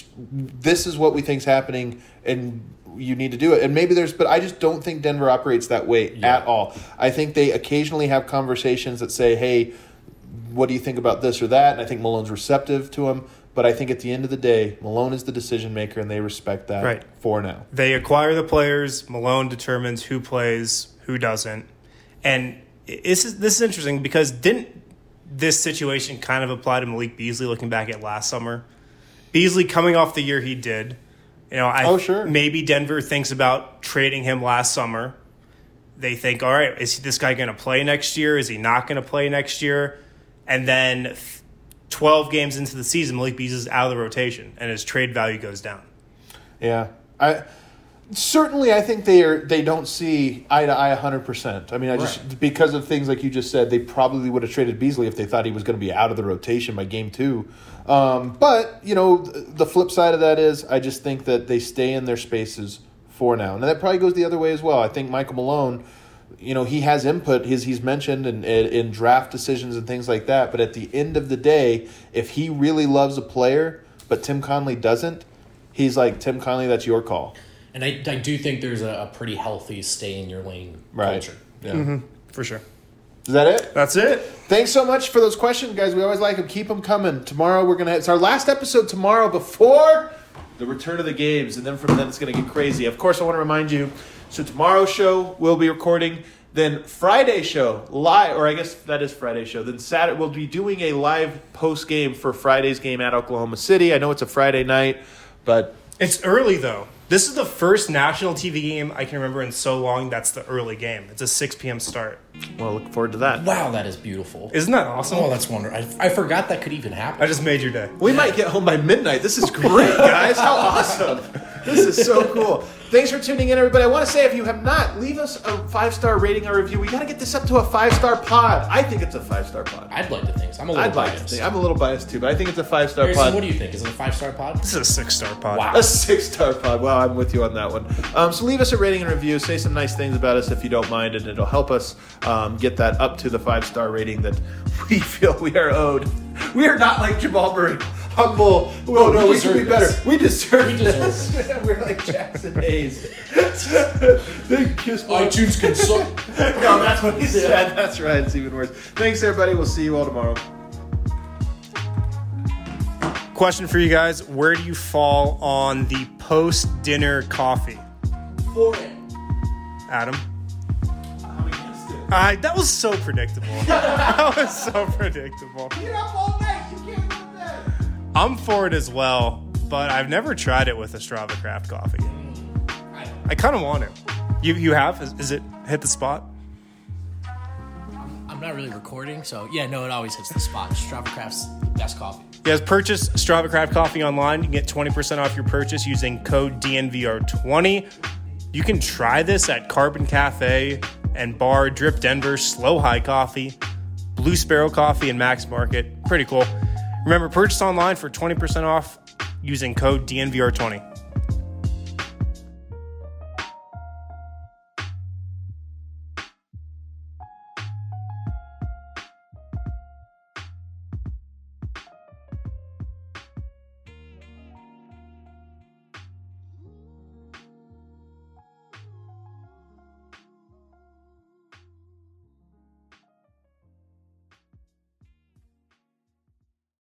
this is what we think's happening, and you need to do it. And maybe there's, but I just don't think Denver operates that way yeah. at all. I think they occasionally have conversations that say, hey, what do you think about this or that? And I think Malone's receptive to them. But I think at the end of the day, Malone is the decision maker, and they respect that right. for now. They acquire the players. Malone determines who plays, who doesn't. And this is, this is interesting because didn't this situation kind of apply to Malik Beasley looking back at last summer? Beasley coming off the year he did. You know, I, oh, sure. Maybe Denver thinks about trading him last summer. They think, all right, is this guy going to play next year? Is he not going to play next year? And then twelve games into the season, Malik Beasley's out of the rotation, and his trade value goes down. Yeah. I certainly I think they are they don't see eye to eye one hundred percent. I mean, I just right. because of things like you just said, they probably would have traded Beasley if they thought he was going to be out of the rotation by game two. Um, but, you know, the flip side of that is I just think that they stay in their spaces for now. And that probably goes the other way as well. I think Michael Malone, you know, he has input, his, he's mentioned in, in draft decisions and things like that. But at the end of the day, if he really loves a player, but Tim Connelly doesn't, he's like, Tim Connelly, that's your call. And I, I do think there's a, a pretty healthy stay-in-your-lane right. culture. Yeah. Mm-hmm. For sure. Is that it? That's it. Thanks so much for those questions, guys. We always like them. Keep them coming. Tomorrow we're gonna. It's our last episode tomorrow before the return of the games, and then from then it's gonna get crazy. Of course, I want to remind you. So tomorrow's show we'll be recording. Then Friday show live, or I guess that is Friday show. Then Saturday we'll be doing a live post game for Friday's game at Oklahoma City. I know it's a Friday night, but it's early though. This is the first national T V game I can remember in so long that's the early game. It's a six p.m. start. Well, look forward to that. Wow, that is beautiful. Isn't that awesome? Oh, that's wonderful. I, I forgot that could even happen. I just made your day. We might get home by midnight. This is great, guys. How awesome. This is so cool. Thanks for tuning in, everybody. I want to say, if you have not, leave us a five-star rating or review. We got to get this up to a five-star pod. I think it's a five-star pod. I'd like to think so. I'm a little I'd like biased. to think. I'm a little biased, too, but I think it's a five-star Harrison, pod. what do you think? Is it a five-star pod? This is a six-star pod. Wow. A six-star pod. Wow, I'm with you on that one. Um, so leave us a rating and review. Say some nice things about us if you don't mind, and it'll help us um, get that up to the five-star rating that we feel we are owed. We are not like Jamal Murray. Humble. Oh, no, we, we can be better. This. We deserve we this. Deserve We're like Jackson Hayes. They kiss iTunes consult. No, that's what he said. That's right. It's even worse. Thanks, everybody. We'll see you all tomorrow. Question for you guys. Where do you fall on the post-dinner coffee? For it. Adam? I'm against it. Uh, that was so predictable. That was so predictable. You're up all night. You can't go to bed. I'm for it as well, but I've never tried it with a Strava Craft coffee. I, I kind of want to. You you have? Is, is it hit the spot? I'm not really recording, so yeah, no, it always hits the spot. Strava Craft's the best coffee. You guys purchase Strava Craft coffee online. You can get twenty percent off your purchase using code D N V R twenty. You can try this at Carbon Cafe and Bar, Drip Denver, Slow High Coffee, Blue Sparrow Coffee, and Max Market. Pretty cool. Remember, purchase online for twenty percent off using code D N V R twenty.